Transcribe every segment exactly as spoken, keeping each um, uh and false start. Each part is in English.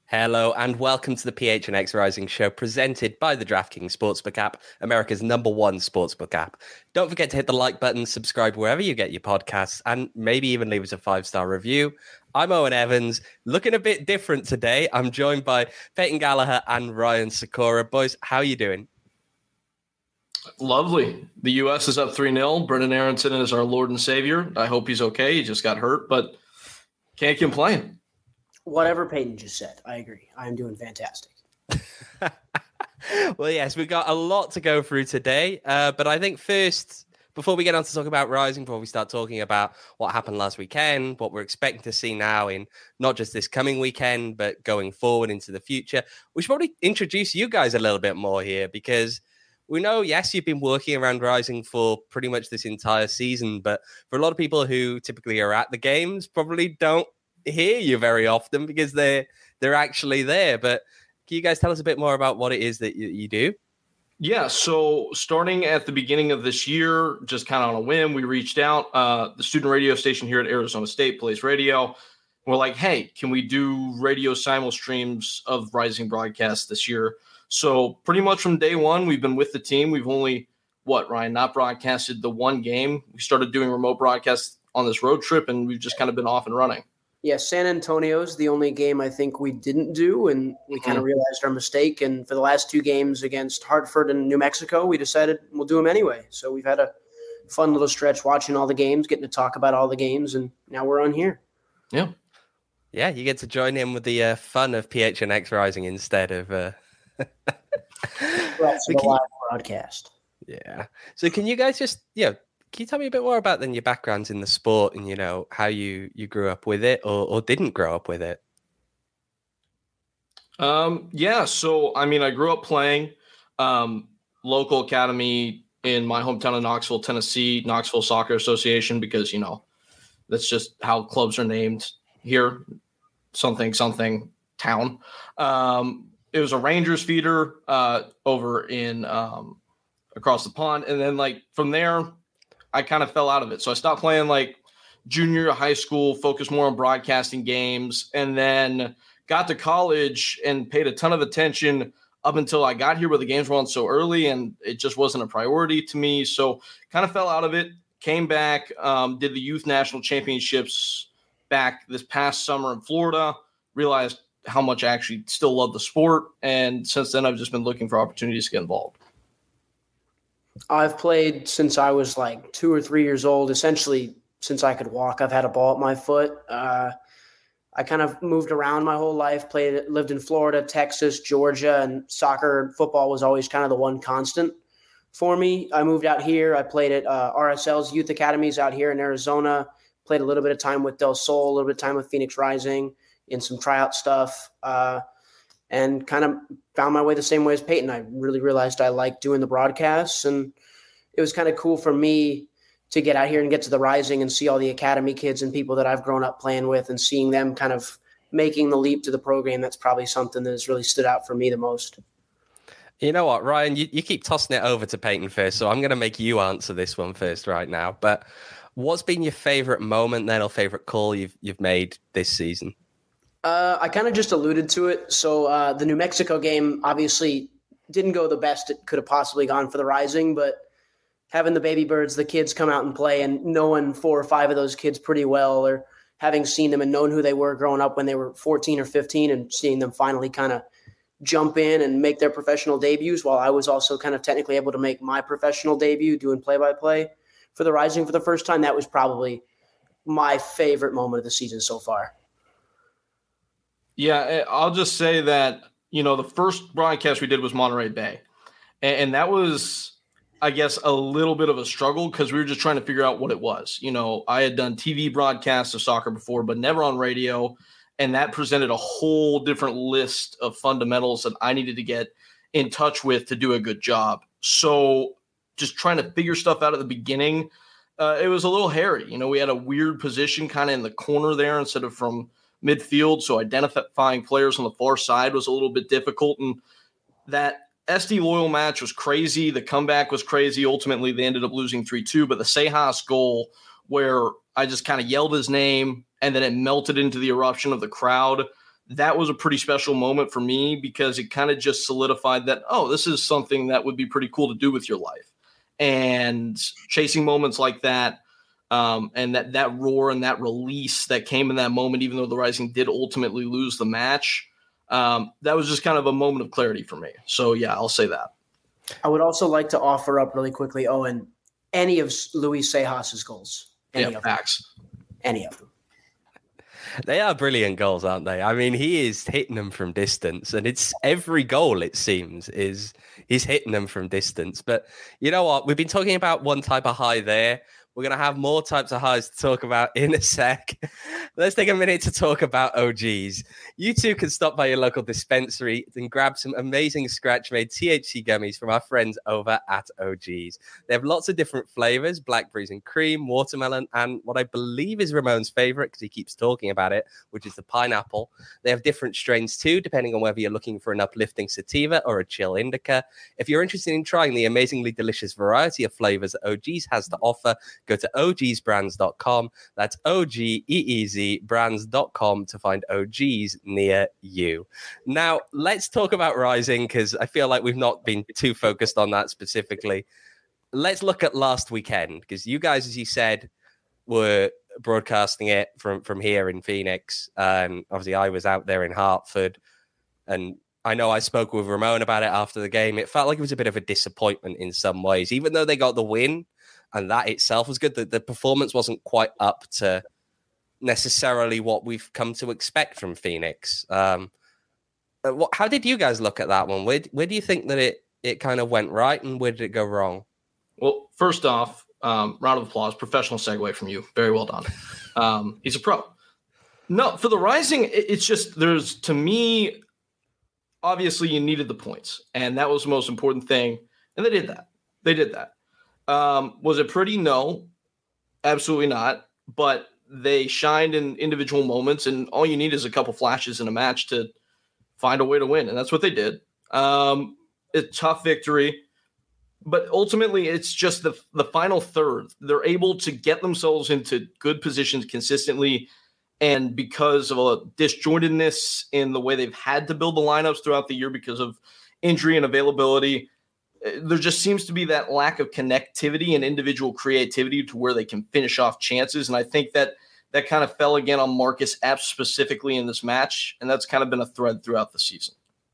Hello and welcome to the P H N X Rising Show presented by the DraftKings Sportsbook app, America's number one sportsbook app. Don't forget to hit the like button, subscribe wherever you get your podcasts, and maybe even leave us a five-star review. I'm Owen Evans, looking a bit different today. I'm joined by Peyton Gallagher and Ryan Sikora. Boys, how are you doing? Lovely. The U S is up three nil. Brendan Aronson is our Lord and Savior. I hope he's okay. He just got hurt, but can't complain. Whatever Peyton just said, I agree. I'm doing fantastic. Well, yes, we've got a lot to go through today. Uh, but I think first, before we get on to talk about Rising, before we start talking about what happened last weekend, what we're expecting to see now in not just this coming weekend, but going forward into the future, we should probably introduce you guys a little bit more here because we know, yes, you've been working around Rising for pretty much this entire season, but for a lot of people who typically are at the games, probably don't hear you very often because they're they're actually there. But can you guys tell us a bit more about what it is that you, you do? Yeah, so starting at the beginning of this year, just kind of on a whim, we reached out. Uh, the student radio station here at Arizona State plays radio. We're like, hey, can we do radio simul streams of Rising broadcasts this year? So pretty much from day one, we've been with the team. We've only, what, Ryan, not broadcasted the one game. We started doing remote broadcasts on this road trip, and we've just kind of been off and running. Yeah, San Antonio's the only game I think we didn't do, and we kind of realized our mistake. And for the last two games against Hartford and New Mexico, we decided we'll do them anyway. So we've had a fun little stretch watching all the games, getting to talk about all the games, and now we're on here. Yeah. Yeah, you get to join in with the uh, fun of P H N X Rising instead of uh... That's the live broadcast. Yeah. So can you guys just, you know, can you tell me a bit more about then your backgrounds in the sport and, you know, how you, you grew up with it or, or didn't grow up with it? Um, yeah. So, I mean, I grew up playing um, local academy in my hometown of Knoxville, Tennessee, Knoxville Soccer Association, because, you know, that's just how clubs are named here. Something, something town. Um, it was a Rangers feeder uh, over in um, across the pond. And then like from there, I kind of fell out of it. So I stopped playing like junior high school, focused more on broadcasting games, and then got to college and paid a ton of attention up until I got here where the games were on so early and it just wasn't a priority to me. So kind of fell out of it, came back, um, did the youth national championships back this past summer in Florida, realized how much I actually still love the sport. And since then I've just been looking for opportunities to get involved. I've played since I was like two or three years old, essentially since I could walk. I've had a ball at my foot. Uh, I kind of moved around my whole life, played, lived in Florida, Texas, Georgia, and soccer and football was always kind of the one constant for me. I moved out here. I played at uh, R S L's youth academies out here in Arizona, played a little bit of time with Del Sol, a little bit of time with Phoenix Rising in some tryout stuff. Uh, and kind of found my way the same way as Peyton. I really realized I liked doing the broadcasts, and it was kind of cool for me to get out here and get to the Rising and see all the academy kids and people that I've grown up playing with and seeing them kind of making the leap to the program. That's probably something that has really stood out for me the most. You know what, Ryan, you, you keep tossing it over to Peyton first, so I'm going to make you answer this one first right now. But what's been your favorite moment then or favorite call you've you've made this season? Uh, I kind of just alluded to it. So uh, the New Mexico game obviously didn't go the best it could have possibly gone for the Rising, but having the baby birds, the kids come out and play and knowing four or five of those kids pretty well, or having seen them and known who they were growing up when they were fourteen or fifteen and seeing them finally kind of jump in and make their professional debuts while I was also kind of technically able to make my professional debut doing play-by-play for the Rising for the first time. That was probably my favorite moment of the season so far. Yeah, I'll just say that, you know, the first broadcast we did was Monterey Bay. And that was, I guess, a little bit of a struggle because we were just trying to figure out what it was. You know, I had done T V broadcasts of soccer before, but never on radio. And that presented a whole different list of fundamentals that I needed to get in touch with to do a good job. So just trying to figure stuff out at the beginning, uh, it was a little hairy. You know, we had a weird position kind of in the corner there instead of from midfield, so identifying players on the far side was a little bit difficult. And that S D Loyal match was crazy. The comeback was crazy. Ultimately, they ended up losing three two, but the Sejas goal where I just kind of yelled his name and then it melted into the eruption of the crowd, that was a pretty special moment for me because it kind of just solidified that, oh, this is something that would be pretty cool to do with your life. And chasing moments like that, um, and that that roar and that release that came in that moment, even though the Rising did ultimately lose the match, um, that was just kind of a moment of clarity for me. So, yeah, I'll say that. I would also like to offer up really quickly, Owen, any of Luis Sejas' goals. Any yeah, of facts. them. Any of them. They are brilliant goals, aren't they? I mean, he is hitting them from distance, and it's every goal, it seems, is he's hitting them from distance. But you know what? We've been talking about one type of high there. We're going to have more types of highs to talk about in a sec. Let's take a minute to talk about O Gs. You too can stop by your local dispensary and grab some amazing scratch-made T H C gummies from our friends over at O Gs. They have lots of different flavors, blackberries and cream, watermelon, and what I believe is Ramon's favorite, because he keeps talking about it, which is the pineapple. They have different strains too, depending on whether you're looking for an uplifting sativa or a chill indica. If you're interested in trying the amazingly delicious variety of flavors that O Gs has to offer, go to O Gs brands dot com. That's O G E E Z brands dot com to find O Gs near you. Now, let's talk about Rising, because I feel like we've not been too focused on that specifically. Let's look at last weekend, because you guys, as you said, were broadcasting it from, from here in Phoenix. And obviously, I was out there in Hartford. And I know I spoke with Ramon about it after the game. It felt like it was a bit of a disappointment in some ways, even though they got the win. And that itself was good. The, the performance wasn't quite up to necessarily what we've come to expect from Phoenix. Um, what, how did you guys look at that one? Where, where do you think that it, it kind of went right, and where did it go wrong? Well, first off, um, round of applause, professional segue from you. Very well done. Um, he's a pro. No, for the Rising, it, it's just there's, to me, obviously you needed the points, and that was the most important thing. And they did that. They did that. Um, was it pretty? No, absolutely not. But they shined in individual moments, and all you need is a couple flashes in a match to find a way to win. And that's what they did. Um, a tough victory, but ultimately it's just the, the final third. They're able to get themselves into good positions consistently. And because of a disjointedness in the way they've had to build the lineups throughout the year because of injury and availability, there just seems to be that lack of connectivity and individual creativity to where they can finish off chances. And I think that that kind of fell again on Marcus Epps specifically in this match. And that's kind of been a thread throughout the season.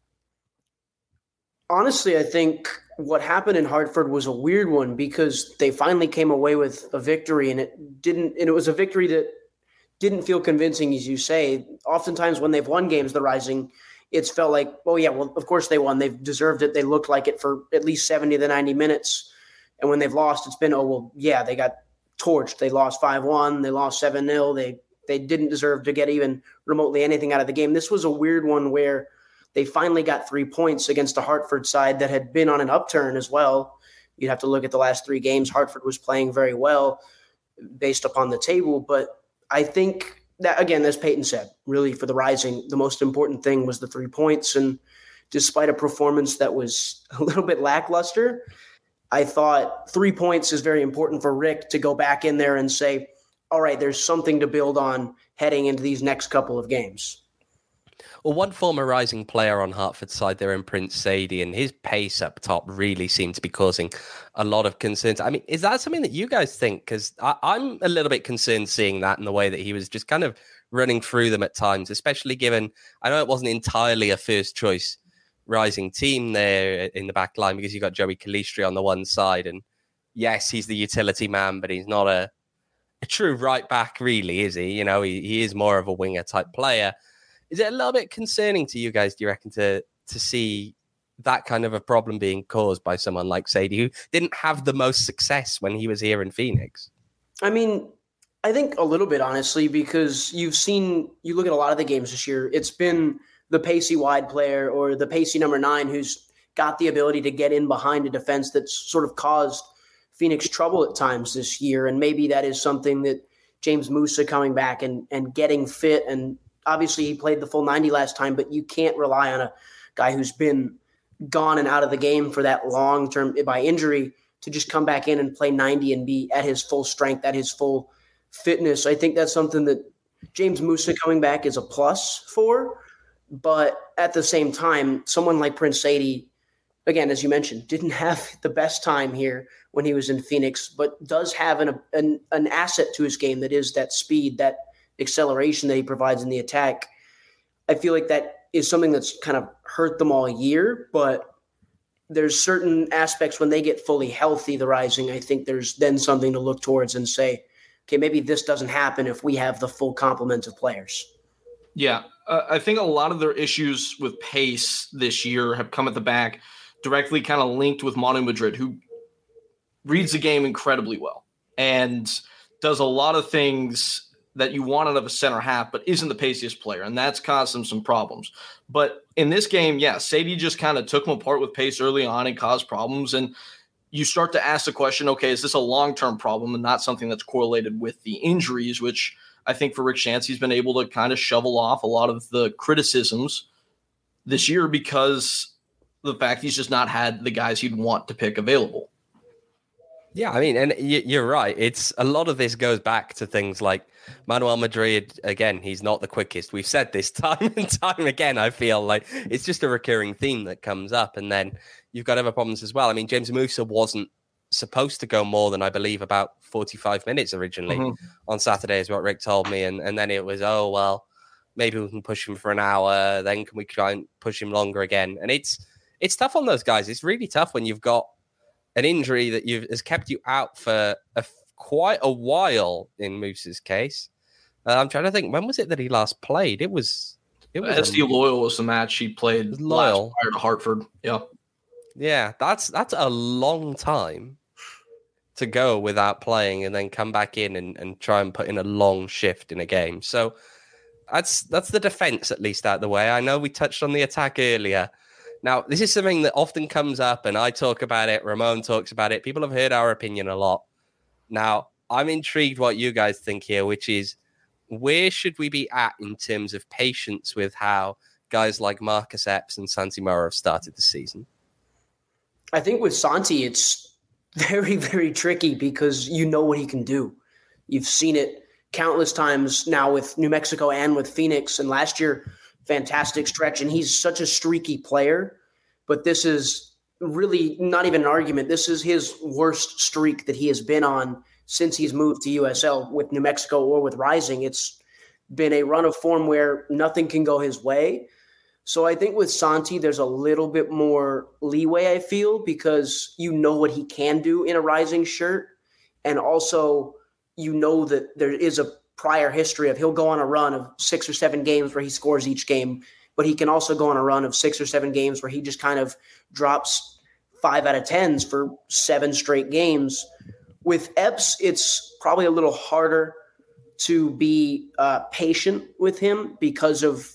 Honestly, I think what happened in Hartford was a weird one because they finally came away with a victory, and it didn't, and it was a victory that didn't feel convincing, as you say. Oftentimes when they've won games, the Rising, it's felt like, oh, yeah, well, of course they won. They've deserved it. They looked like it for at least seventy to ninety minutes. And when they've lost, it's been, oh, well, yeah, they got torched. They lost five one. They lost seven nil. They they didn't deserve to get even remotely anything out of the game. This was a weird one where they finally got three points against a Hartford side that had been on an upturn as well. You'd have to look at the last three games. Hartford was playing very well based upon the table. But I think that, again, as Peyton said, really for the Rising, the most important thing was the three points. And despite a performance that was a little bit lackluster, I thought three points is very important for Rick to go back in there and say, all right, there's something to build on heading into these next couple of games. Well, one former Rising player on Hartford's side there in Prince Sadie, and his pace up top really seemed to be causing a lot of concerns. I mean, is that something that you guys think? Because I'm a little bit concerned seeing that in the way that he was just kind of running through them at times, especially given, I know it wasn't entirely a first choice Rising team there in the back line because you got Joey Calistri on the one side. And yes, he's the utility man, but he's not a, a true right back, really, is he? You know, he, he is more of a winger type player. Is it a little bit concerning to you guys, do you reckon, to to see that kind of a problem being caused by someone like Sadie, who didn't have the most success when he was here in Phoenix? I mean, I think a little bit, honestly, because you've seen, you look at a lot of the games this year, it's been the pacey wide player or the pacey number nine who's got the ability to get in behind a defense that's sort of caused Phoenix trouble at times this year. And maybe that is something that James Musa coming back and, and getting fit, and obviously he played the full ninety last time, but you can't rely on a guy who's been gone and out of the game for that long term by injury to just come back in and play ninety and be at his full strength, at his full fitness. I think that's something that James Musa coming back is a plus for. But at the same time, someone like Prince Sadie, again, as you mentioned, didn't have the best time here when he was in Phoenix, but does have an, an, an asset to his game that is that speed, that acceleration that he provides in the attack. I feel like that is something that's kind of hurt them all year, but there's certain aspects when they get fully healthy, the Rising, I think there's then something to look towards and say, okay, maybe this doesn't happen if we have the full complement of players. Yeah, uh, I think a lot of their issues with pace this year have come at the back, directly kind of linked with Manu Madrid, who reads the game incredibly well and does a lot of things that you want out of a center half, but isn't the paciest player, and that's caused them some problems. But in this game, yeah, Sadie just kind of took him apart with pace early on and caused problems, and you start to ask the question, okay, is this a long-term problem and not something that's correlated with the injuries, which I think for Rick Shancey's been able to kind of shovel off a lot of the criticisms this year because the fact he's just not had the guys he'd want to pick available. Yeah, I mean, and you're right. It's a lot of this goes back to things like Manuel Madrid. Again, he's not the quickest. We've said this time and time again. I feel like it's just a recurring theme that comes up. And then you've got other problems as well. I mean, James Musa wasn't supposed to go more than, I believe, about forty-five minutes originally mm-hmm. on Saturday is what Rick told me. And, and then it was, oh, well, maybe we can push him for an hour. Then can we try and push him longer again? And it's it's tough on those guys. It's really tough when you've got an injury that you've has kept you out for a, quite a while in Moose's case. Uh, I'm trying to think, when was it that he last played? It was... it was S D um, Loyal was the match he played Loyal. Last prior to Hartford. Yeah. Yeah, that's that's a long time to go without playing and then come back in and, and try and put in a long shift in a game. So that's that's the defense at least out of the way. I know we touched on the attack earlier. Now, this is something that often comes up, and I talk about it. Ramon talks about it. People have heard our opinion a lot. Now, I'm intrigued what you guys think here, which is where should we be at in terms of patience with how guys like Marcus Epps and Santi Mora have started the season? I think with Santi, it's very, very tricky because you know what he can do. You've seen it countless times now with New Mexico and with Phoenix, and last year – fantastic stretch, and he's such a streaky player, but this is really not even an argument. This is his worst streak that he has been on since he's moved to U S L with New Mexico or with Rising. It's been a run of form where nothing can go his way. So I think with Santi, there's a little bit more leeway, I feel, because you know what he can do in a Rising shirt, and also you know that there is a prior history of he'll go on a run of six or seven games where he scores each game, but he can also go on a run of six or seven games where he just kind of drops five out of tens for seven straight games. With Epps, it's probably a little harder to be uh, patient with him because of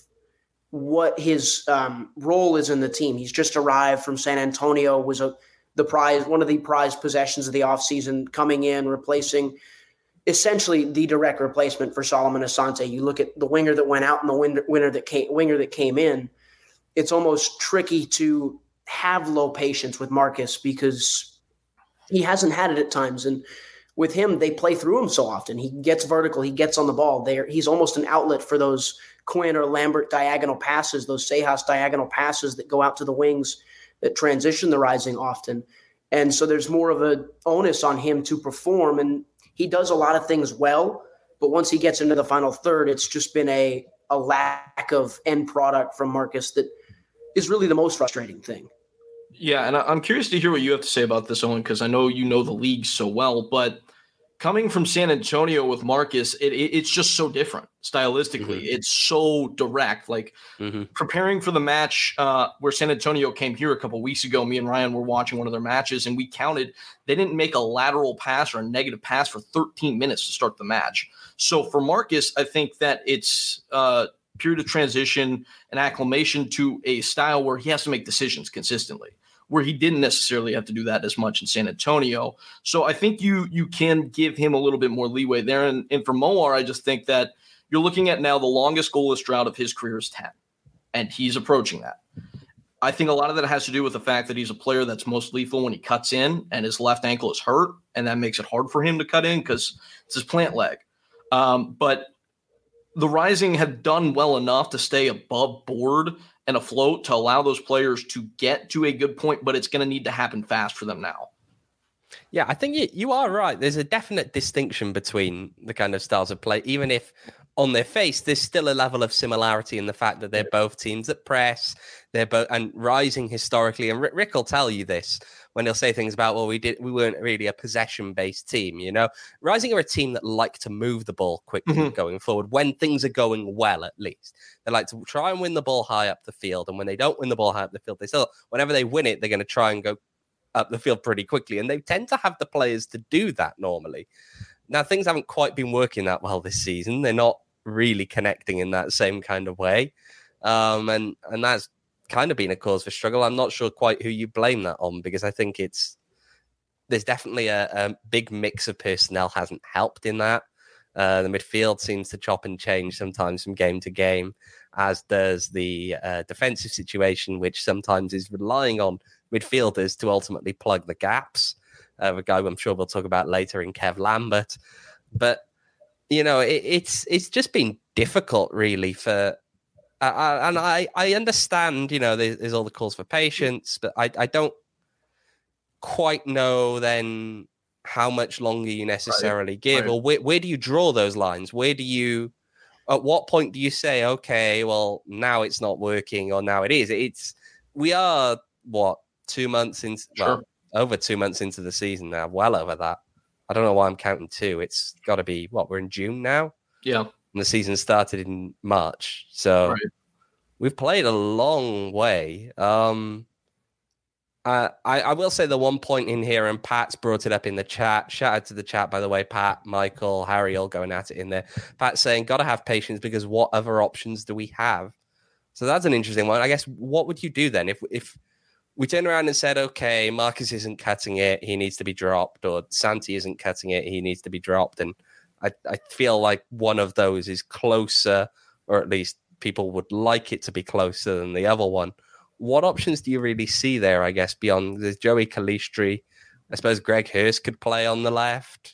what his um, role is in the team. He's just arrived from San Antonio, was a the prize, one of the prized possessions of the offseason, coming in, replacing essentially the direct replacement for Solomon Asante. You look at the winger that went out and the winger, winner that came, winger that came in. It's almost tricky to have low patience with Marcus because he hasn't had it at times. And with him, they play through him so often. He gets vertical. He gets on the ball. There, he's almost an outlet for those Quinn or Lambert diagonal passes, those Sejas diagonal passes that go out to the wings that transition the Rising often. And so there's more of an onus on him to perform. And he does a lot of things well, but once he gets into the final third, it's just been a, a lack of end product from Marcus that is really the most frustrating thing. Yeah, and I'm curious to hear what you have to say about this, Owen, because I know you know the league so well, but coming from San Antonio with Marcus, it, it, it's just so different stylistically. Mm-hmm. It's so direct. Like mm-hmm. preparing for the match uh, where San Antonio came here a couple of weeks ago, me and Ryan were watching one of their matches, and we counted they didn't make a lateral pass or a negative pass for thirteen minutes to start the match. So for Marcus, I think that it's uh, period of transition and acclimation to a style where he has to make decisions consistently, where he didn't necessarily have to do that as much in San Antonio. So I think you you can give him a little bit more leeway there. And, and for Moar, I just think that you're looking at now the longest goalless drought of his career is ten, and he's approaching that. I think a lot of that has to do with the fact that he's a player that's most lethal when he cuts in, and his left ankle is hurt, and that makes it hard for him to cut in because it's his plant leg. Um, but the Rising had done well enough to stay above board and afloat to allow those players to get to a good point, but it's going to need to happen fast for them now. Yeah, I think you, you are right. There's a definite distinction between the kind of styles of play, even if on their face, there's still a level of similarity in the fact that they're both teams that press. They're both and Rising historically, and Rick, Rick will tell you this when he'll say things about, well, we did we weren't really a possession-based team, you know. Rising are a team that like to move the ball quickly mm-hmm. going forward when things are going well, at least. They like to try and win the ball high up the field, and when they don't win the ball high up the field, they still, whenever they win it, they're going to try and go up the field pretty quickly, and they tend to have the players to do that normally. Now, things haven't quite been working that well this season. They're not really connecting in that same kind of way, um, and and that's kind of been a cause for struggle. I'm not sure quite who you blame that on, because I think it's there's definitely a, a big mix of personnel hasn't helped in that. Uh, the midfield seems to chop and change sometimes from game to game, as does the uh, defensive situation, which sometimes is relying on midfielders to ultimately plug the gaps. Uh, a guy I'm sure we'll talk about later in Kev Lambert. But, you know, it, it's it's just been difficult, really, for... Uh, and I, I understand, you know, there's, there's all the calls for patience, but I, I don't quite know then how much longer you necessarily right. give, right. or where, where do you draw those lines? Where do you... At what point do you say, okay, well, now it's not working, or now it is? It's... We are, what... Two months into, sure. well, over two months into the season now, well over that. I don't know why I'm counting two. It's got to be, what, we're in June now? Yeah. And the season started in March. So right. we've played a long way. Um, I, I, I will say the one point in here, and Pat's brought it up in the chat. Shout out to the chat, by the way, Pat, Michael, Harry, all going at it in there. Pat saying, got to have patience because what other options do we have? So that's an interesting one. I guess, what would you do then if if... we turned around and said, okay, Marcus isn't cutting it, he needs to be dropped, or Santi isn't cutting it, he needs to be dropped. And I, I feel like one of those is closer, or at least people would like it to be closer than the other one. What options do you really see there, I guess, beyond there's Joey Calistri? I suppose Greg Hurst could play on the left.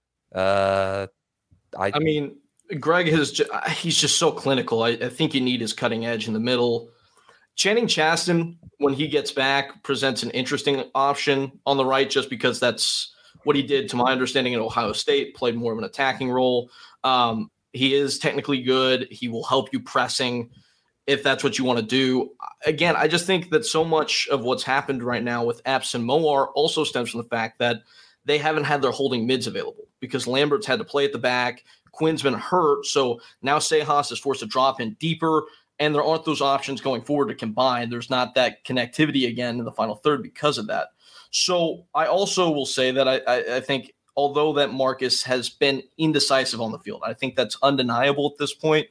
Uh, I, I mean, Greg has ju- he's just so clinical. I, I think you need his cutting edge in the middle. Channing Chaston, when he gets back, presents an interesting option on the right, just because that's what he did, to my understanding, at Ohio State, played more of an attacking role. Um, he is technically good. He will help you pressing if that's what you want to do. Again, I just think that so much of what's happened right now with Epps and Moar also stems from the fact that they haven't had their holding mids available, because Lambert's had to play at the back. Quinn's been hurt, so now Sejas is forced to drop in deeper. And there aren't those options going forward to combine. There's not that connectivity again in the final third because of that. So I also will say that I, I, I think, although that Marcus has been indecisive on the field, I think that's undeniable at this point.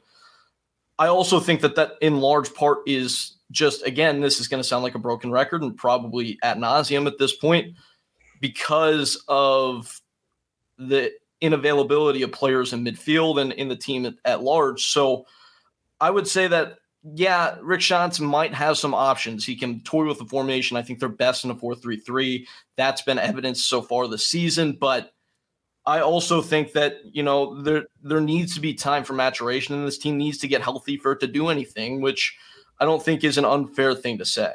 I also think that that in large part is just, again, this is going to sound like a broken record and probably ad nauseum at this point, because of the unavailability of players in midfield and in the team at, at large. So I would say that, yeah, Rick Schantz might have some options. He can toy with the formation. I think they're best in a four three three. That's been evidenced so far this season. But I also think that, you know, there there needs to be time for maturation, and this team needs to get healthy for it to do anything, which I don't think is an unfair thing to say.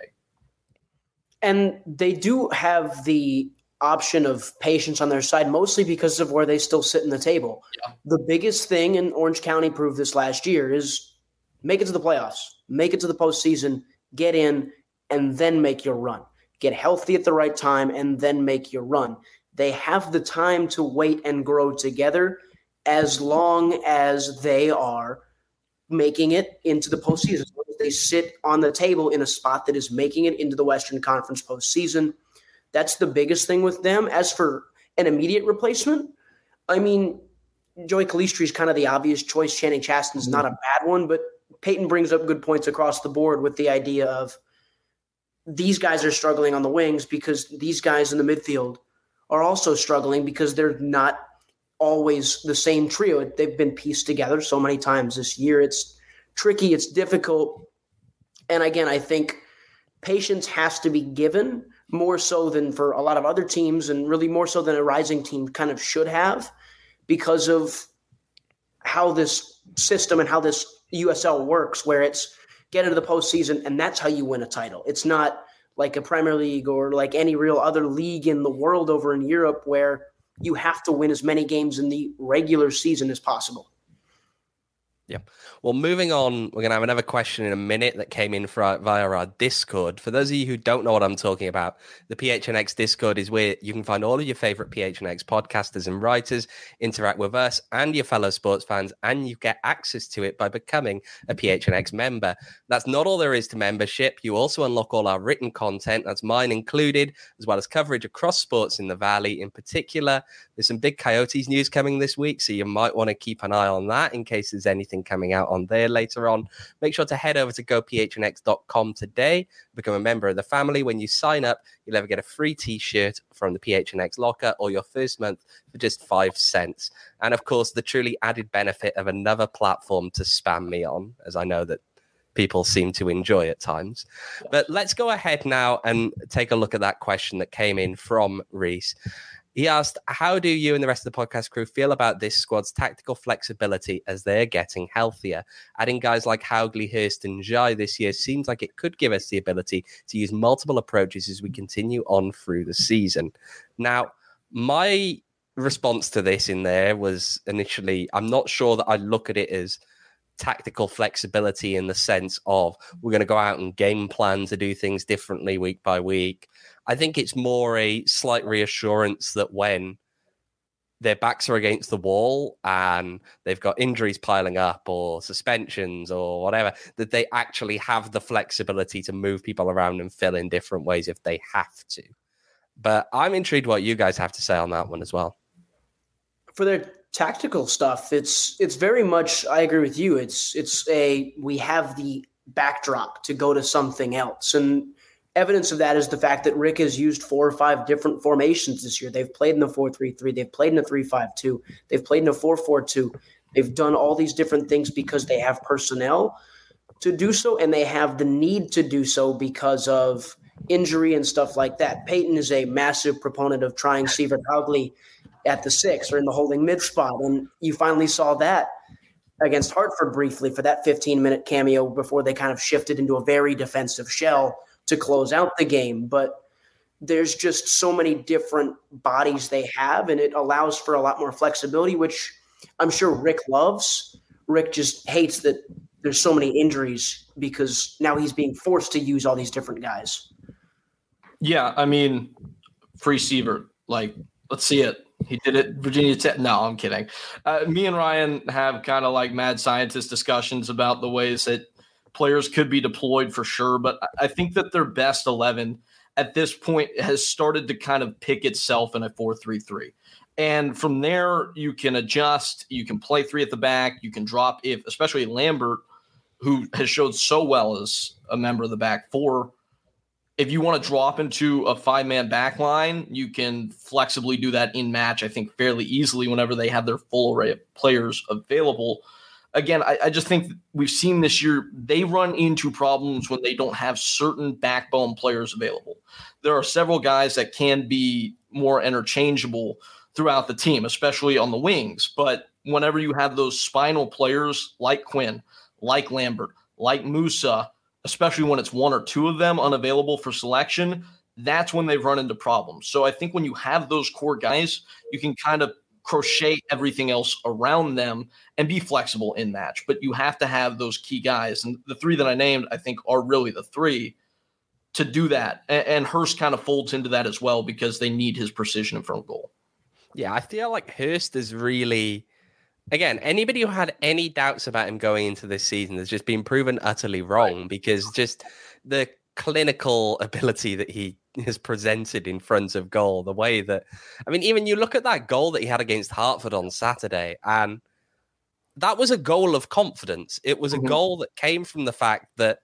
And they do have the option of patience on their side, mostly because of where they still sit in the table. Yeah. The biggest thing, and Orange County proved this last year, is make it to the playoffs, make it to the postseason, get in, and then make your run. Get healthy at the right time, and then make your run. They have the time to wait and grow together as long as they are making it into the postseason. As long as they sit on the table in a spot that is making it into the Western Conference postseason. That's the biggest thing with them. As for an immediate replacement, I mean, Joey Calistri is kind of the obvious choice. Channing Chaston's mm-hmm. not a bad one, but Peyton brings up good points across the board with the idea of these guys are struggling on the wings because these guys in the midfield are also struggling because they're not always the same trio. They've been pieced together so many times this year. It's tricky. It's difficult. And again, I think patience has to be given more so than for a lot of other teams, and really more so than a Rising team kind of should have, because of how this system and how this U S L works, where it's get into the postseason and that's how you win a title. It's not like a Premier League or like any real other league in the world over in Europe where you have to win as many games in the regular season as possible. Yeah. Well, moving on, we're going to have another question in a minute that came in for, via our Discord. For those of you who don't know what I'm talking about, the P H N X Discord is where you can find all of your favorite P H N X podcasters and writers, interact with us and your fellow sports fans, and you get access to it by becoming a P H N X member. That's not all there is to membership. You also unlock all our written content, that's mine included, as well as coverage across sports in the Valley. In particular, there's some big Coyotes news coming this week, so you might want to keep an eye on that in case there's anything coming out on there later on. Make sure to head over to go p h n x dot com today, become a member of the family. When you sign up, you'll ever get a free t-shirt from the P H N X locker or your first month for just five cents. And of course, the truly added benefit of another platform to spam me on, as I know that people seem to enjoy at times. But let's go ahead now and take a look at that question that came in from Reese. He asked, how do you and the rest of the podcast crew feel about this squad's tactical flexibility as they're getting healthier? Adding guys like Haugley, Hurst, and Jai this year seems like it could give us the ability to use multiple approaches as we continue on through the season. Now, my response to this in there was initially, I'm not sure that I look at it as tactical flexibility in the sense of we're going to go out and game plan to do things differently week by week. I think it's more a slight reassurance that when their backs are against the wall and they've got injuries piling up or suspensions or whatever, that they actually have the flexibility to move people around and fill in different ways if they have to. But I'm intrigued what you guys have to say on that one as well. For their tactical stuff, it's it's very much, I agree with you. It's it's a, we have the backdrop to go to something else. And evidence of that is the fact that Rick has used four or five different formations this year. They've played in the four three three. They've played in a three five two. They've played in a four four two. They've done all these different things because they have personnel to do so, and they have the need to do so because of injury and stuff like that. Peyton is a massive proponent of trying Sievert Haugley at the six or in the holding mid spot, and you finally saw that against Hartford briefly for that fifteen-minute cameo before they kind of shifted into a very defensive shell to close out the game. But there's just so many different bodies they have, and it allows for a lot more flexibility, which I'm sure Rick loves. Rick just hates that there's so many injuries because now he's being forced to use all these different guys. Yeah, I mean, free Sievert. Like, let's see it. He did it. Virginia Tech. No, I'm kidding. Uh, me and Ryan have kind of like mad scientist discussions about the ways that players could be deployed for sure. But I think that their best eleven at this point has started to kind of pick itself in a four three three. And from there, you can adjust. You can play three at the back. You can drop, if especially Lambert, who has showed so well as a member of the back four. If you want to drop into a five-man back line, you can flexibly do that in match, I think, fairly easily whenever they have their full array of players available. Again, I, I just think we've seen this year, they run into problems when they don't have certain backbone players available. There are several guys that can be more interchangeable throughout the team, especially on the wings. But whenever you have those spinal players like Quinn, like Lambert, like Musa, especially when it's one or two of them unavailable for selection, that's when they've run into problems. So I think when you have those core guys, you can kind of crochet everything else around them and be flexible in match. But you have to have those key guys. And the three that I named, I think, are really the three to do that. And, and Hurst kind of folds into that as well because they need his precision in front of goal. Yeah, I feel like Hurst is really... Again, anybody who had any doubts about him going into this season has just been proven utterly wrong right. because just the clinical ability that he has presented in front of goal, the way that, I mean, even you look at that goal that he had against Hartford on Saturday, and that was a goal of confidence. It was mm-hmm. a goal that came from the fact that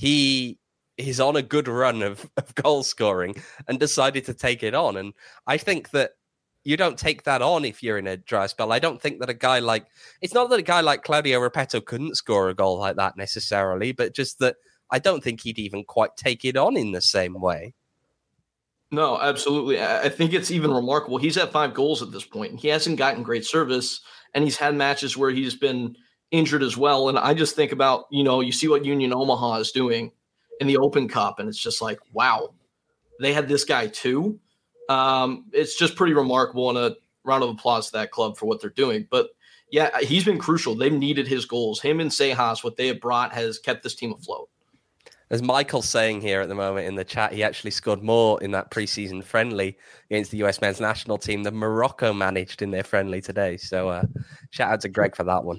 he is on a good run of, of goal scoring and decided to take it on. And I think that you don't take that on if you're in a dry spell. I don't think that a guy like, it's not that a guy like Claudio Repetto couldn't score a goal like that necessarily, but just that I don't think he'd even quite take it on in the same way. No, absolutely. I think it's even remarkable. He's at five goals at this point. He hasn't gotten great service, and he's had matches where he's been injured as well. And I just think about, you know, you see what Union Omaha is doing in the Open Cup, and it's just like, wow, they had this guy too. Um, it's just pretty remarkable, and a round of applause to that club for what they're doing. But yeah, he's been crucial. They've needed his goals. Him and Sejas, what they have brought has kept this team afloat. As Michael's saying here at the moment in the chat, he actually scored more in that preseason friendly against the U S men's national team than Morocco managed in their friendly today. So uh, shout out to Greg for that one.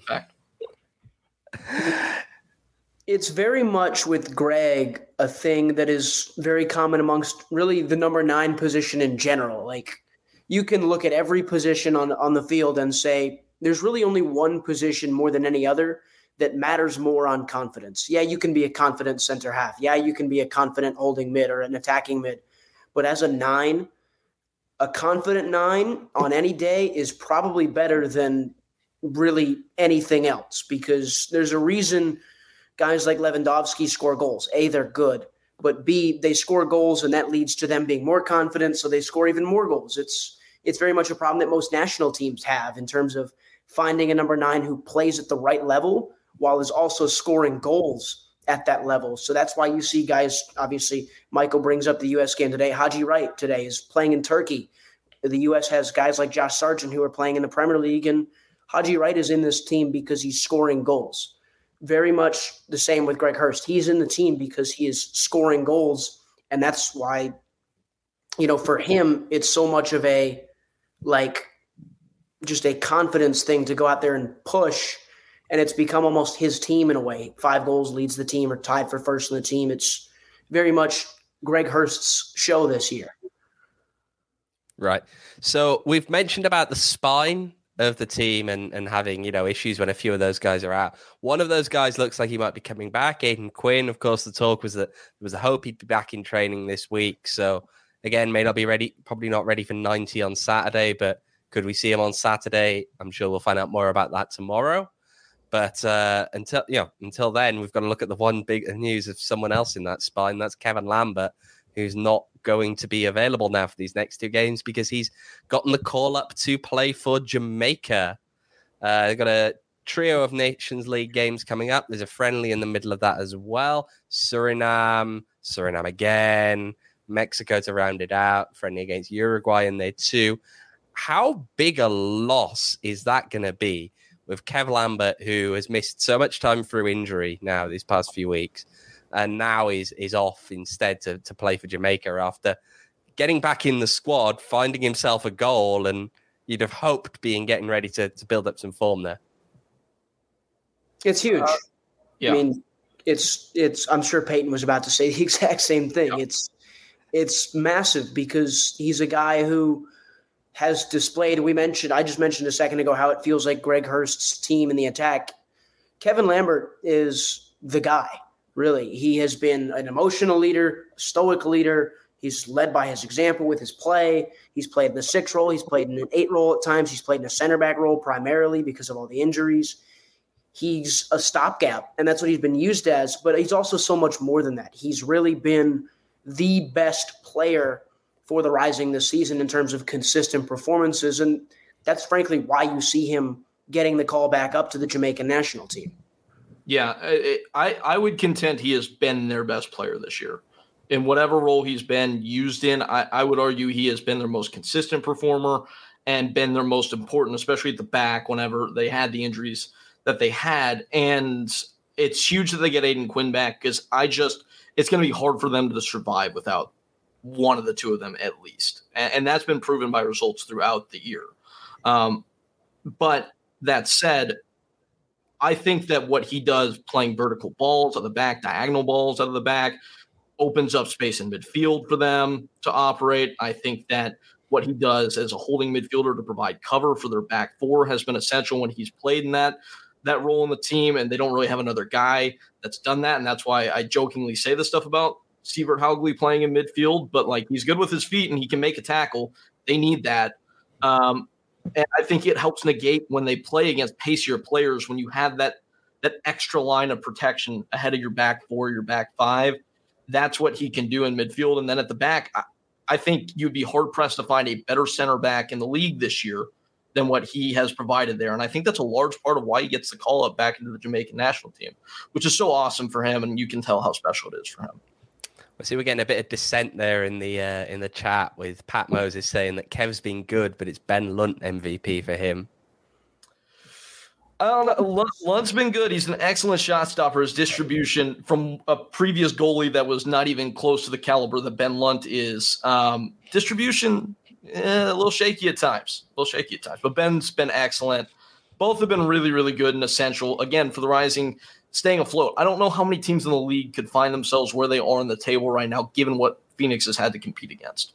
It's very much with Greg a thing that is very common amongst really the number nine position in general. Like, you can look at every position on, on the field and say there's really only one position more than any other that matters more on confidence. Yeah, you can be a confident center half. Yeah, you can be a confident holding mid or an attacking mid. But as a nine, a confident nine on any day is probably better than really anything else, because there's a reason guys like Lewandowski score goals. A, they're good, but B, they score goals and that leads to them being more confident, so they score even more goals. It's it's very much a problem that most national teams have in terms of finding a number nine who plays at the right level while is also scoring goals at that level. So that's why you see guys, obviously, Michael brings up the U S game today. Haji Wright today is playing in Turkey. The U S has guys like Josh Sargent who are playing in the Premier League, and Haji Wright is in this team because he's scoring goals. Very much the same with Greg Hurst. He's in the team because he is scoring goals, and that's why, you know, for him, it's so much of a, like, just a confidence thing to go out there and push. And it's become almost his team in a way. Five goals leads the team or tied for first in the team. It's very much Greg Hurst's show this year. Right. So we've mentioned about the spine of the team and, and having, you know, issues when a few of those guys are out. One of those guys looks like he might be coming back. Aidan Quinn, of course, the talk was that there was a hope he'd be back in training this week. So again, may not be ready, probably not ready for ninety on Saturday, but could we see him on Saturday? I'm sure we'll find out more about that tomorrow. But uh, until you know, until then, we've got to look at the one big news of someone else in that spine. That's Kevin Lambert, who's not going to be available now for these next two games because he's gotten the call up to play for Jamaica. Uh, they've got a trio of Nations League games coming up. There's a friendly in the middle of that as well. Suriname, Suriname again, Mexico to round it out. Friendly against Uruguay in there too. How big a loss is that going to be with Kev Lambert, who has missed so much time through injury now these past few weeks, and now is is off instead to, to play for Jamaica after getting back in the squad, finding himself a goal, and you'd have hoped being getting ready to, to build up some form there. It's huge. Uh, yeah. I mean, it's it's. I'm sure Peyton was about to say the exact same thing. Yeah. It's it's massive because he's a guy who has displayed, we mentioned, I just mentioned a second ago how it feels like Greg Hurst's team in the attack. Kevin Lambert is the guy, really. He has been an emotional leader, a stoic leader. He's led by his example with his play. He's played in the six role. He's played in an eight role at times. He's played in a center back role primarily because of all the injuries. He's a stopgap, and that's what he's been used as. But he's also so much more than that. He's really been the best player for the Rising this season in terms of consistent performances. And that's frankly why you see him getting the call back up to the Jamaican national team. Yeah, it, I, I would contend he has been their best player this year. In whatever role he's been used in, I, I would argue he has been their most consistent performer and been their most important, especially at the back whenever they had the injuries that they had. And it's huge that they get Aidan Quinn back because I just – it's going to be hard for them to survive without one of the two of them at least. And, and that's been proven by results throughout the year. Um, but that said, I think that what he does playing vertical balls out of the back, diagonal balls out of the back, opens up space in midfield for them to operate. I think that what he does as a holding midfielder to provide cover for their back four has been essential when he's played in that that role in the team, and they don't really have another guy that's done that. And that's why I jokingly say this stuff about Sievert Hauglie playing in midfield, but like he's good with his feet and he can make a tackle. They need that. Um, and I think it helps negate when they play against pacier players, when you have that, that extra line of protection ahead of your back four, your back five. That's what he can do in midfield. And then at the back, I, I think you'd be hard-pressed to find a better center back in the league this year than what he has provided there. And I think that's a large part of why he gets the call-up back into the Jamaican national team, which is so awesome for him, and you can tell how special it is for him. Well, see, we're getting a bit of dissent there in the uh, in the chat with Pat Moses saying that Kev's been good, but it's Ben Lunt M V P for him. I don't know. Lunt's been good. He's an excellent shot stopper. His distribution from a previous goalie that was not even close to the caliber that Ben Lunt is. Um, distribution, eh, a little shaky at times. A little shaky at times. But Ben's been excellent. Both have been really, really good and essential, again, for the Rising staying afloat. I don't know how many teams in the league could find themselves where they are on the table right now, given what Phoenix has had to compete against.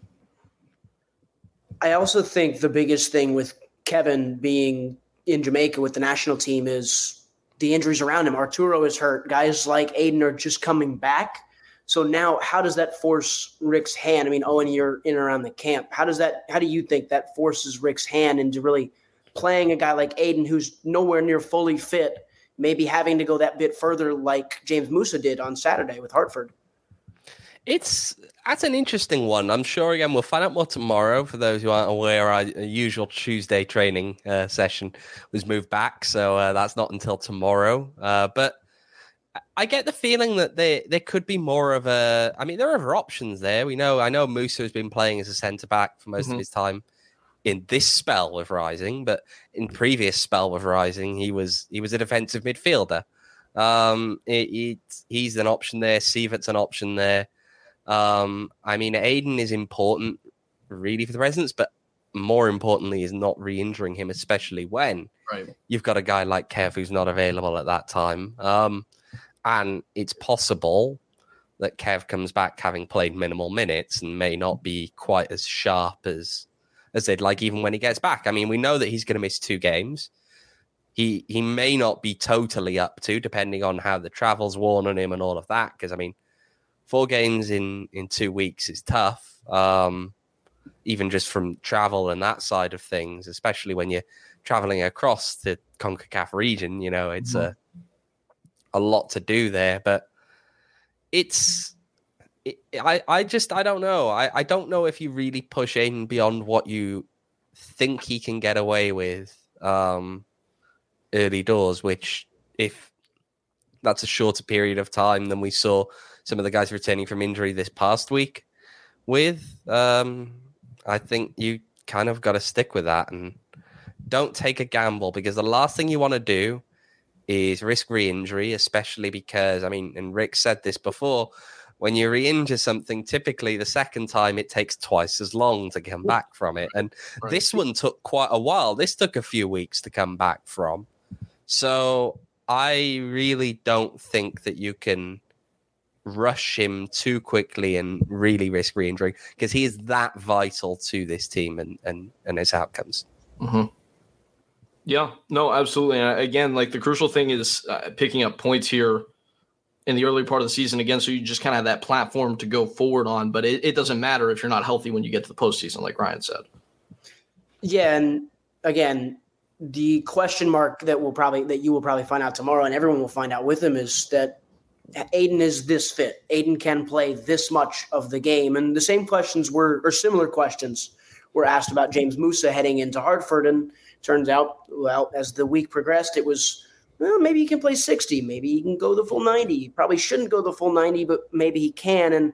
I also think the biggest thing with Kevin being – in Jamaica with the national team is the injuries around him. Arturo is hurt. Guys like Aiden are just coming back. So now how does that force Rick's hand? I mean, Owen, you're in and around the camp. How does that, how do you think that forces Rick's hand into really playing a guy like Aiden who's nowhere near fully fit, maybe having to go that bit further like James Musa did on Saturday with Hartford? It's that's an interesting one. I'm sure, again, we'll find out more tomorrow. For those who aren't aware, our usual Tuesday training uh, session was moved back, so uh, that's not until tomorrow. Uh, but I get the feeling that there there could be more of a. I mean, there are other options there. We know. I know Musa has been playing as a centre back for most mm-hmm. of his time in this spell with Rising, but in previous spell with Rising, he was he was a defensive midfielder. Um, it, it, he's an option there. Sievert's an option there. Um, I mean, Aiden is important really for the Residents, but more importantly is not re-injuring him, especially when right. you've got a guy like Kev who's not available at that time. Um, and it's possible that Kev comes back having played minimal minutes and may not be quite as sharp as, as they'd like, even when he gets back. I mean, we know that he's going to miss two games. He, he may not be totally up to, depending on how the travel's worn on him and all of that. Because, I mean, Four games in, in two weeks is tough, um, even just from travel and that side of things, especially when you're traveling across the CONCACAF region. You know, it's mm-hmm. a a lot to do there, but it's it, I I just I don't know. I, I don't know if you really push Aiden beyond what you think he can get away with um, early doors, which if that's a shorter period of time than we saw some of the guys returning from injury this past week with, um, I think you kind of got to stick with that and don't take a gamble, because the last thing you want to do is risk re-injury, especially because, I mean, and Rick said this before, when you re-injure something, typically the second time it takes twice as long to come back from it. And right. this one took quite a while. This took a few weeks to come back from. So I really don't think that you can rush him too quickly and really risk re-injury, because he is that vital to this team and and, and its outcomes. Mm-hmm. Yeah, no, absolutely. And again, like the crucial thing is uh, picking up points here in the early part of the season again, so you just kind of have that platform to go forward on. But it, it doesn't matter if you're not healthy when you get to the postseason, like Ryan said. Yeah, and again, the question mark that will probably that you will probably find out tomorrow, and everyone will find out with him, is that Aiden is this fit. Aiden can play this much of the game. And the same questions were, or similar questions were asked about James Musa heading into Hartford. And turns out, well, as the week progressed, it was, well, maybe he can play sixty. Maybe he can go the full ninety. He probably shouldn't go the full ninety, but maybe he can. And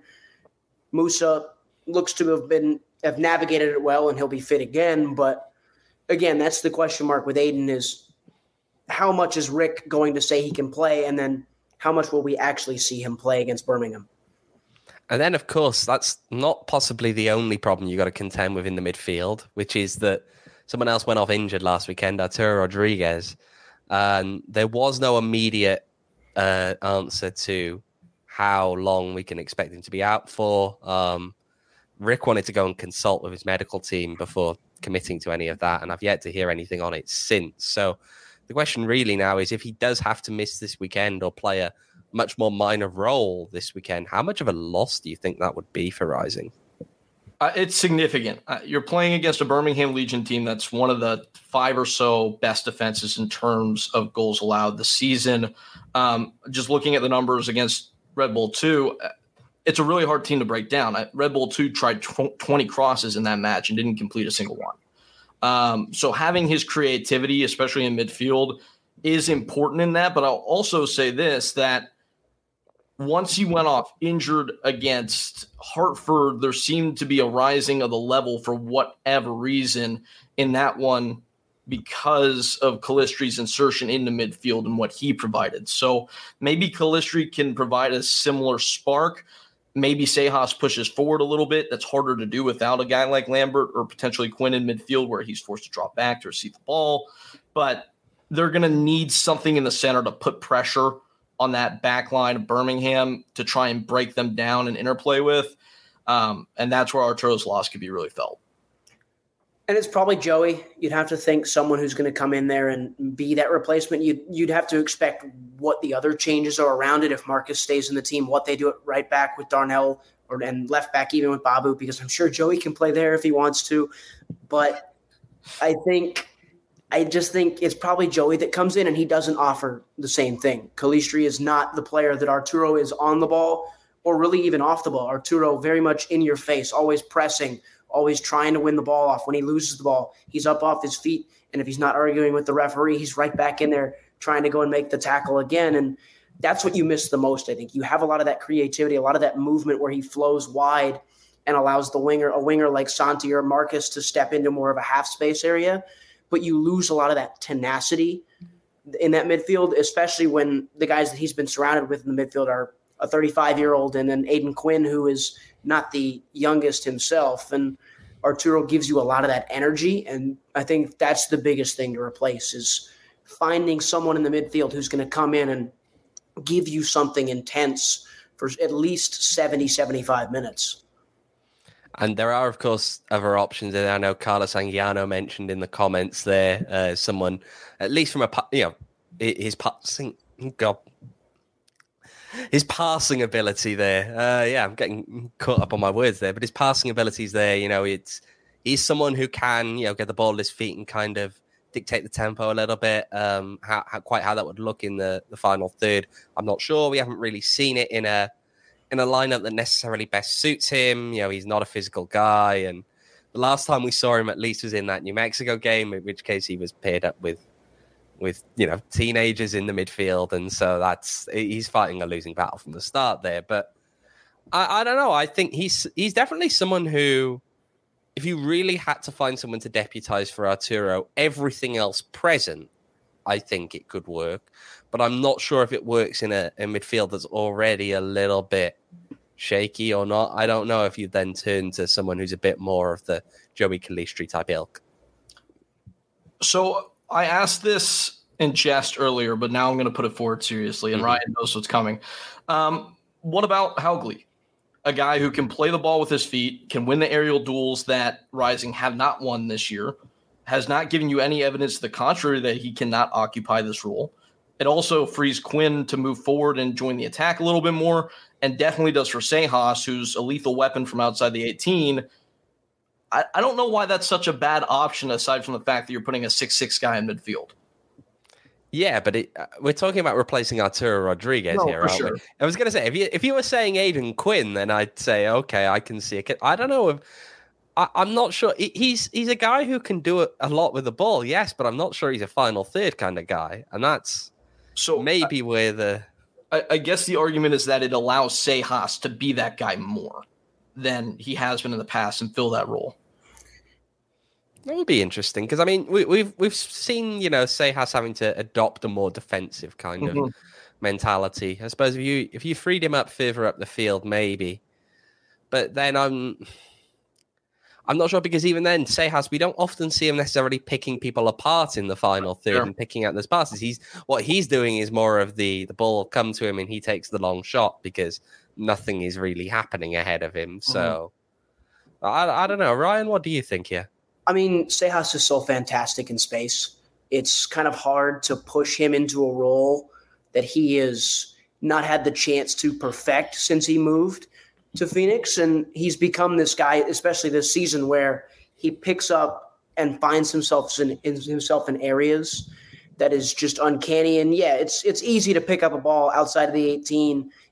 Musa looks to have been, have navigated it well, and he'll be fit again. But again, that's the question mark with Aiden, is how much is Rick going to say he can play? And then how much will we actually see him play against Birmingham? And then, of course, that's not possibly the only problem you got to contend with in the midfield, which is that someone else went off injured last weekend, Arturo Rodriguez. And there was no immediate uh, answer to how long we can expect him to be out for. Um, Rick wanted to go and consult with his medical team before committing to any of that, and I've yet to hear anything on it since. So the question really now is, if he does have to miss this weekend or play a much more minor role this weekend, how much of a loss do you think that would be for Rising? Uh, it's significant. Uh, you're playing against a Birmingham Legion team that's one of the five or so best defenses in terms of goals allowed this season. Um, just looking at the numbers against Red Bull two, it's a really hard team to break down. Red Bull two tried twenty crosses in that match and didn't complete a single one. Um, so having his creativity, especially in midfield, is important in that. But I'll also say this, that once he went off injured against Hartford, there seemed to be a rising of the level for whatever reason in that one because of Calistri's insertion into midfield and what he provided. So maybe Calistri can provide a similar spark. Maybe Sejas pushes forward a little bit. That's harder to do without a guy like Lambert or potentially Quinn in midfield where he's forced to drop back to receive the ball. But they're going to need something in the center to put pressure on that back line of Birmingham to try and break them down and interplay with. Um, and that's where Arturo's loss could be really felt. And it's probably Joey. You'd have to think someone who's going to come in there and be that replacement. You'd, you'd have to expect what the other changes are around it. If Marcus stays in the team, what they do at right back with Darnell or and left back even with Babu, because I'm sure Joey can play there if he wants to. But I think I just think it's probably Joey that comes in and he doesn't offer the same thing. Calistri is not the player that Arturo is on the ball or really even off the ball. Arturo very much in your face, always pressing, always trying to win the ball off. When he loses the ball, he's up off his feet. And if he's not arguing with the referee, he's right back in there trying to go and make the tackle again. And that's what you miss the most, I think. You have a lot of that creativity, a lot of that movement where he flows wide and allows the winger, a winger like Santi or Marcus to step into more of a half space area. But you lose a lot of that tenacity in that midfield, especially when the guys that he's been surrounded with in the midfield are a thirty-five-year-old and then Aiden Quinn, who is not the youngest himself. And Arturo gives you a lot of that energy. And I think that's the biggest thing to replace is finding someone in the midfield who's going to come in and give you something intense for at least seventy, seventy-five minutes. And there are, of course, other options. And I know Carlos Anguiano mentioned in the comments there, uh, someone, at least from a, you know, his passing, God, his passing ability there. Uh, yeah, I'm getting caught up on my words there, but his passing abilities there, you know, it's he's someone who can, you know, get the ball at his feet and kind of dictate the tempo a little bit. Um, how, how quite how that would look in the, the final third, I'm not sure. We haven't really seen it in a in a lineup that necessarily best suits him. You know, he's not a physical guy, and the last time we saw him at least was in that New Mexico game, in which case he was paired up with. with, you know, teenagers in the midfield. And so that's, he's fighting a losing battle from the start there. But I, I don't know. I think he's, he's definitely someone who, if you really had to find someone to deputize for Arturo, everything else present, I think it could work. But I'm not sure if it works in a, a midfield that's already a little bit shaky or not. I don't know if you then turn to someone who's a bit more of the Joey Calistri type ilk. So I asked this in jest earlier, but now I'm going to put it forward seriously, and mm-hmm. Ryan knows what's coming. Um, what about Haugli? A guy who can play the ball with his feet, can win the aerial duels that Rising have not won this year, has not given you any evidence to the contrary that he cannot occupy this role. It also frees Quinn to move forward and join the attack a little bit more, and definitely does for Sejas, who's a lethal weapon from outside the eighteen. I, I don't know why that's such a bad option, aside from the fact that you're putting a six six guy in midfield. Yeah, but it, uh, we're talking about replacing Arturo Rodriguez no, here, for aren't sure. we? I was going to say, if you if you were saying Aiden Quinn, then I'd say, okay, I can see it. I don't know if I, I'm not sure. He's he's a guy who can do a lot with the ball, yes, but I'm not sure he's a final third kind of guy, and that's so maybe I, where the. I, I guess the argument is that it allows Sejas to be that guy more than he has been in the past and fill that role. That would be interesting because I mean we, we've we've seen, you know, Sejas having to adopt a more defensive kind mm-hmm. of mentality. I suppose if you if you freed him up further up the field, maybe, but then I'm I'm not sure because even then Sejas, we don't often see him necessarily picking people apart in the final third sure. and picking out those passes. He's what he's doing is more of the the ball will come to him and he takes the long shot because nothing is really happening ahead of him. So mm-hmm. I I don't know, Ryan, what do you think here? I mean, Sejas is so fantastic in space. It's kind of hard to push him into a role that he has not had the chance to perfect since he moved to Phoenix. And he's become this guy, especially this season, where he picks up and finds himself in, in himself in areas that is just uncanny. And yeah, it's it's easy to pick up a ball outside of the eighteen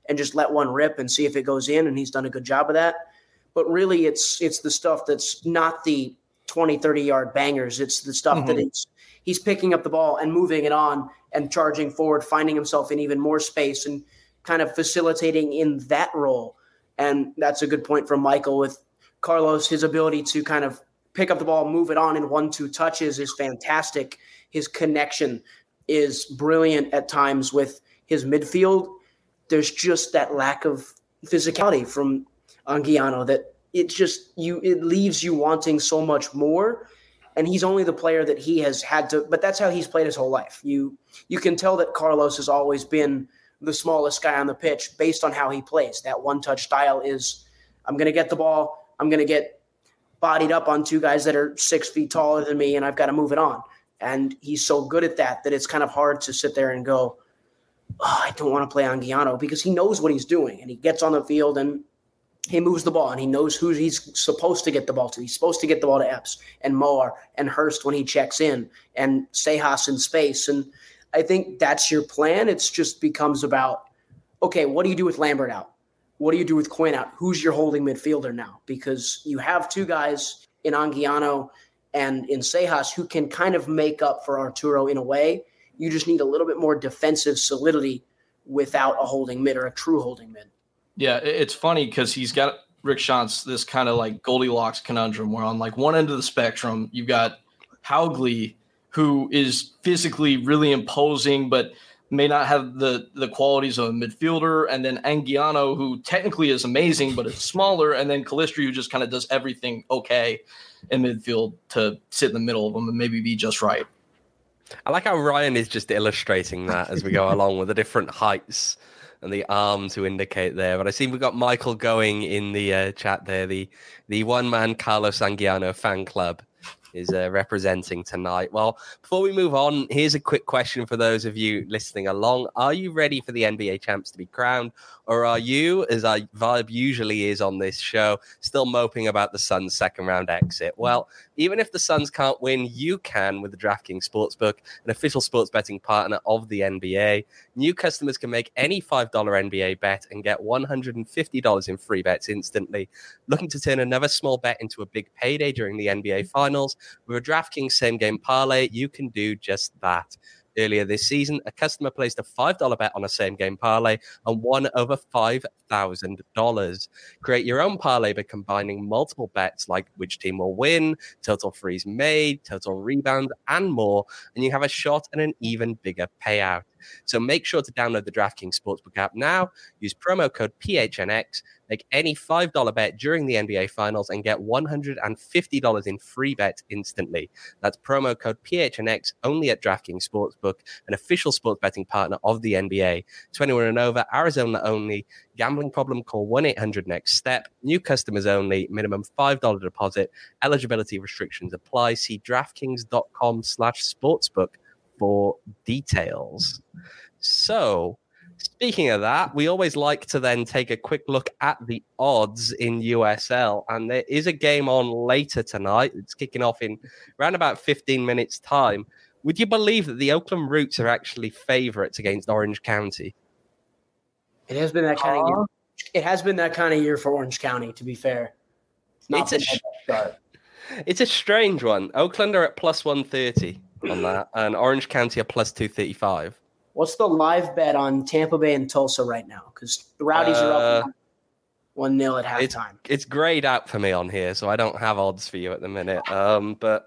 and just let one rip and see if it goes in, and he's done a good job of that. But really, it's it's the stuff that's not the twenty, thirty-yard bangers. It's the stuff mm-hmm. that it's, he's picking up the ball and moving it on and charging forward, finding himself in even more space and kind of facilitating in that role. And that's a good point from Michael with Carlos. His ability to kind of pick up the ball, move it on in one, two touches is fantastic. His connection is brilliant at times with his midfield. There's just that lack of physicality from Anguiano that it just you it leaves you wanting so much more. And he's only the player that he has had to, but that's how he's played his whole life. You you can tell that Carlos has always been the smallest guy on the pitch based on how he plays. That one-touch style is, I'm going to get the ball, I'm going to get bodied up on two guys that are six feet taller than me, and I've got to move it on. And he's so good at that that it's kind of hard to sit there and go, oh, I don't want to play Anguiano, because he knows what he's doing, and he gets on the field and he moves the ball, and he knows who he's supposed to get the ball to. He's supposed to get the ball to Epps and Moar and Hurst when he checks in, and Sejas in space. And I think that's your plan. It just becomes about, okay, what do you do with Lambert out? What do you do with Quinn out? Who's your holding midfielder now? Because you have two guys in Anguiano and in Sejas who can kind of make up for Arturo in a way. You just need a little bit more defensive solidity without a holding mid or a true holding mid. Yeah, it's funny because he's got Rick Schantz, this kind of like Goldilocks conundrum where on like one end of the spectrum, you've got Haugli, who is physically really imposing, but may not have the, the qualities of a midfielder. And then Anguiano, who technically is amazing, but is smaller. And then Calistri, who just kind of does everything okay in midfield to sit in the middle of them and maybe be just right. I like how Ryan is just illustrating that as we go along with the different heights and the arm to indicate there. But I see we've got Michael going in the uh, chat there. The the one-man Carlos Anguiano fan club is uh, representing tonight. Well, before we move on, here's a quick question for those of you listening along. Are you ready for the N B A champs to be crowned? Or are you, as our vibe usually is on this show, still moping about the Suns' second round exit? Well, even if the Suns can't win, you can with the DraftKings Sportsbook, an official sports betting partner of the N B A. New customers can make any five dollars N B A bet and get one hundred fifty dollars in free bets instantly. Looking to turn another small bet into a big payday during the N B A Finals? With a DraftKings same-game parlay, you can do just that. Earlier this season, a customer placed a five dollars bet on a same-game parlay and won over five thousand dollars. Create your own parlay by combining multiple bets like which team will win, total threes made, total rebounds, and more, and you have a shot at an even bigger payout. So make sure to download the DraftKings Sportsbook app now, use promo code P H N X, make any five dollars bet during the N B A Finals, and get one hundred fifty dollars in free bets instantly. That's promo code P H N X only at DraftKings Sportsbook, an official sports betting partner of the N B A. twenty-one and over, Arizona only. Gambling problem, call one eight hundred next step. New customers only. Minimum five dollars deposit. Eligibility restrictions apply. See DraftKings.com slash sportsbook for details. So, speaking of that, we always like to then take a quick look at the odds in U S L, and there is a game on later tonight. It's kicking off in around about fifteen minutes time. Would you believe that the Oakland Roots are actually favorites against Orange County? It has been that kind uh, of year. It has been that kind of year for Orange County, to be fair. It's, not it's, a, start. It's a strange one. Oakland are at plus one thirty on that, and Orange County are plus two thirty-five. What's the live bet on Tampa Bay and Tulsa right now? Because the Rowdies uh, are up one nil at halftime. It's, it's grayed out for me on here, so I don't have odds for you at the minute. Um, but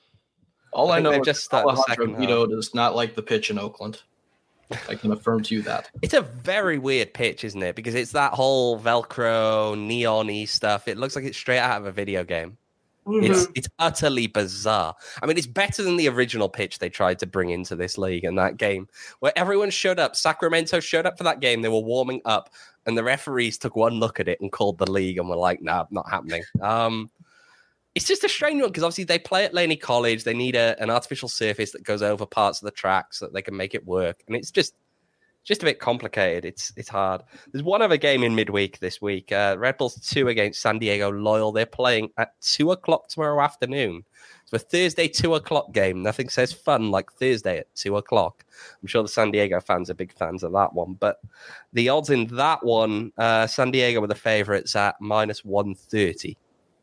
all I, I know is just Alejandro Guido does not like the pitch in Oakland. I can affirm to you that. It's a very weird pitch, isn't it? Because it's that whole Velcro, neon-y stuff. It looks like it's straight out of a video game. Mm-hmm. It's it's utterly bizarre. I mean, it's better than the original pitch they tried to bring into this league in that game, where everyone showed up. Sacramento showed up for that game. They were warming up, and the referees took one look at it and called the league and were like, "Nah, not happening." Um, it's just a strange one because obviously they play at Laney College. They need a, an artificial surface that goes over parts of the track so that they can make it work. And it's just just a bit complicated. It's it's hard. There's one other game in midweek this week. Uh, Red Bulls two against San Diego Loyal. They're playing at two o'clock tomorrow afternoon. It's a Thursday two o'clock game. Nothing says fun like Thursday at two o'clock. I'm sure the San Diego fans are big fans of that one. But the odds in that one, uh, San Diego were the favourites at minus one thirty.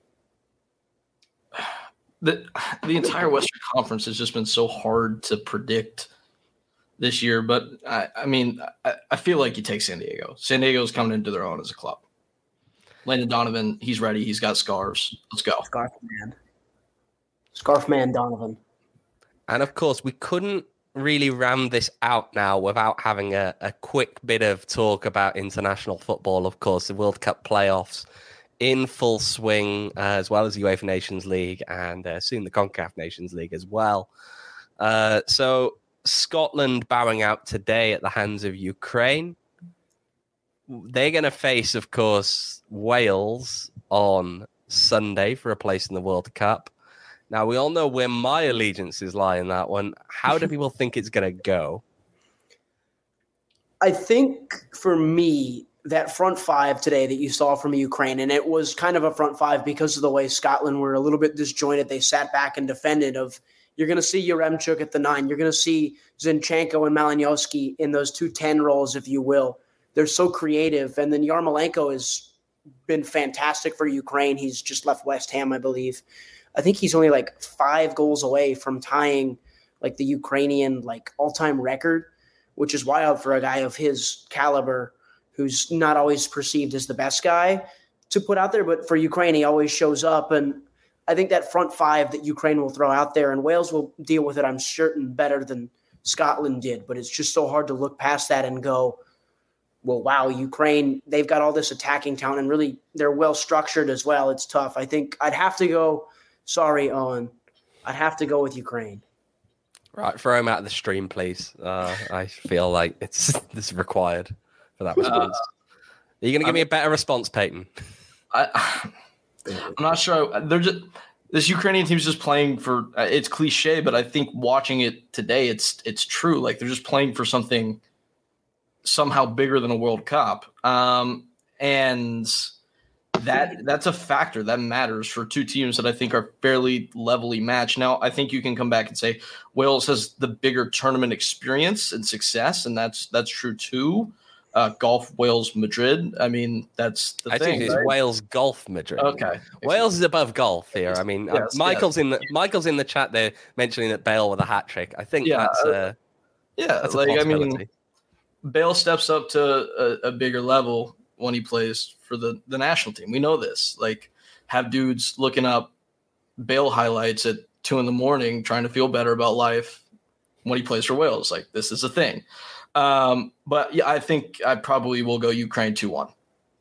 The, the entire Western Conference has just been so hard to predict this year. But, I, I mean, I, I feel like you take San Diego. San Diego's coming into their own as a club. Landon Donovan, he's ready. He's got scarves. Let's go. Scarf man. Scarf man Donovan. And, of course, we couldn't really ram this out now without having a, a quick bit of talk about international football. Of course, the World Cup playoffs in full swing, uh, as well as the UEFA Nations League and uh, soon the CONCACAF Nations League as well. Uh, so Scotland bowing out today at the hands of Ukraine. They're going to face, of course, Wales on Sunday for a place in the World Cup. Now, we all know where my allegiances lie in that one. How do people think it's going to go? I think for me, that front five today that you saw from Ukraine, and it was kind of a front five because of the way Scotland were a little bit disjointed. They sat back and defended. Of you're going to see Yaremchuk at the nine. You're going to see Zinchenko and Malinowski in those two ten roles, if you will. They're so creative. And then Yarmolenko has been fantastic for Ukraine. He's just left West Ham, I believe. I think he's only like five goals away from tying like the Ukrainian like all-time record, which is wild for a guy of his caliber who's not always perceived as the best guy to put out there. But for Ukraine, he always shows up. And I think that front five that Ukraine will throw out there, and Wales will deal with it, I'm certain, better than Scotland did. But it's just so hard to look past that and go, well, wow, Ukraine, they've got all this attacking talent, and really they're well-structured as well. It's tough. I think I'd have to go, sorry, Owen, I'd have to go with Ukraine. Right, throw him out of the stream, please. Uh, I feel like it's this is required for that response. Uh, Are you going to give I'm, me a better response, Peyton? I, I'm not sure. They're just this Ukrainian team's just playing for. It's cliche, but I think watching it today, it's it's true. Like they're just playing for something somehow bigger than a World Cup, um, and that that's a factor that matters for two teams that I think are fairly levelly matched. Now, I think you can come back and say Wales has the bigger tournament experience and success, and that's that's true too. Uh, golf Wales Madrid. I mean, that's the I thing. think it's right? Wales golf Madrid. Okay, Wales is above golf here. I mean, yes, uh, Michael's yes. in the Michael's in the chat there mentioning that Bale with a hat trick. I think yeah, that's uh, yeah. That's like I mean, Bale steps up to a, a bigger level when he plays for the the national team. We know this. Like, have dudes looking up Bale highlights at two in the morning, trying to feel better about life when he plays for Wales. Like, this is a thing. Um, but yeah, I think I probably will go Ukraine two one.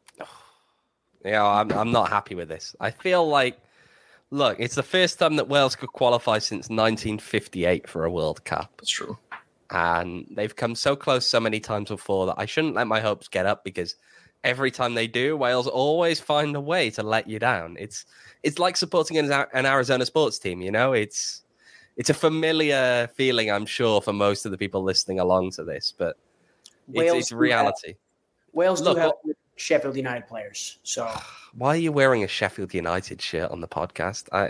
Yeah, I'm I'm not happy with this. I feel like, look, it's the first time that Wales could qualify since nineteen fifty-eight for a World Cup. That's true. And they've come so close so many times before that I shouldn't let my hopes get up, because every time they do, Wales always find a way to let you down. It's it's like supporting an, an Arizona sports team, you know? It's It's a familiar feeling, I'm sure, for most of the people listening along to this, but it's, it's reality. Have, Wales Look, do have what, Sheffield United players. So why are you wearing a Sheffield United shirt on the podcast? I.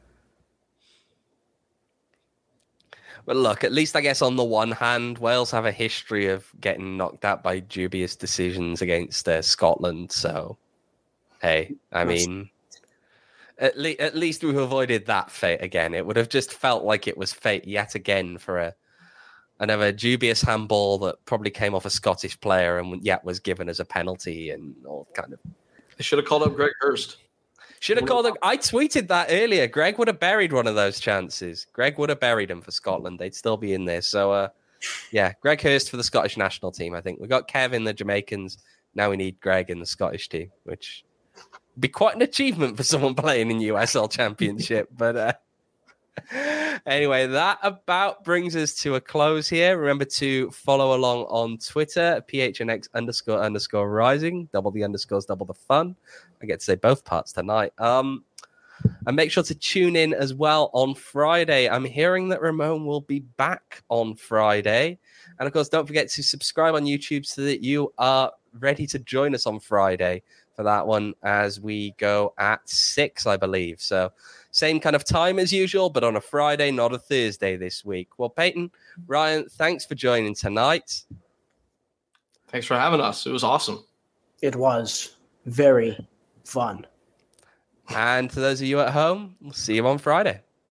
But look, at least I guess on the one hand, Wales have a history of getting knocked out by dubious decisions against uh, Scotland. So, hey, I mean. At, le- at least we've avoided that fate again. It would have just felt like it was fate yet again for a another dubious handball that probably came off a Scottish player and yet was given as a penalty and all kind of. They should have called up Greg Hurst. Should have called up. I tweeted that earlier. Greg would have buried one of those chances. Greg would have buried him for Scotland. They'd still be in there. So, uh, yeah, Greg Hurst for the Scottish national team. I think we got Kev in the Jamaicans. Now we need Greg in the Scottish team, which. Be quite an achievement for someone playing in U S L Championship. But uh, anyway, that about brings us to a close here. Remember to follow along on Twitter, P H N X underscore underscore rising. Double the underscores, double the fun. I get to say both parts tonight. Um, And make sure to tune in as well on Friday. I'm hearing that Ramon will be back on Friday. And of course, don't forget to subscribe on YouTube so that you are ready to join us on Friday for that one as we go at six, I believe. So same kind of time as usual, but on a Friday, not a Thursday this week. Well, Peyton, Ryan, thanks for joining tonight. Thanks for having us. It was awesome. It was very fun. And to those of you at home, we'll see you on Friday.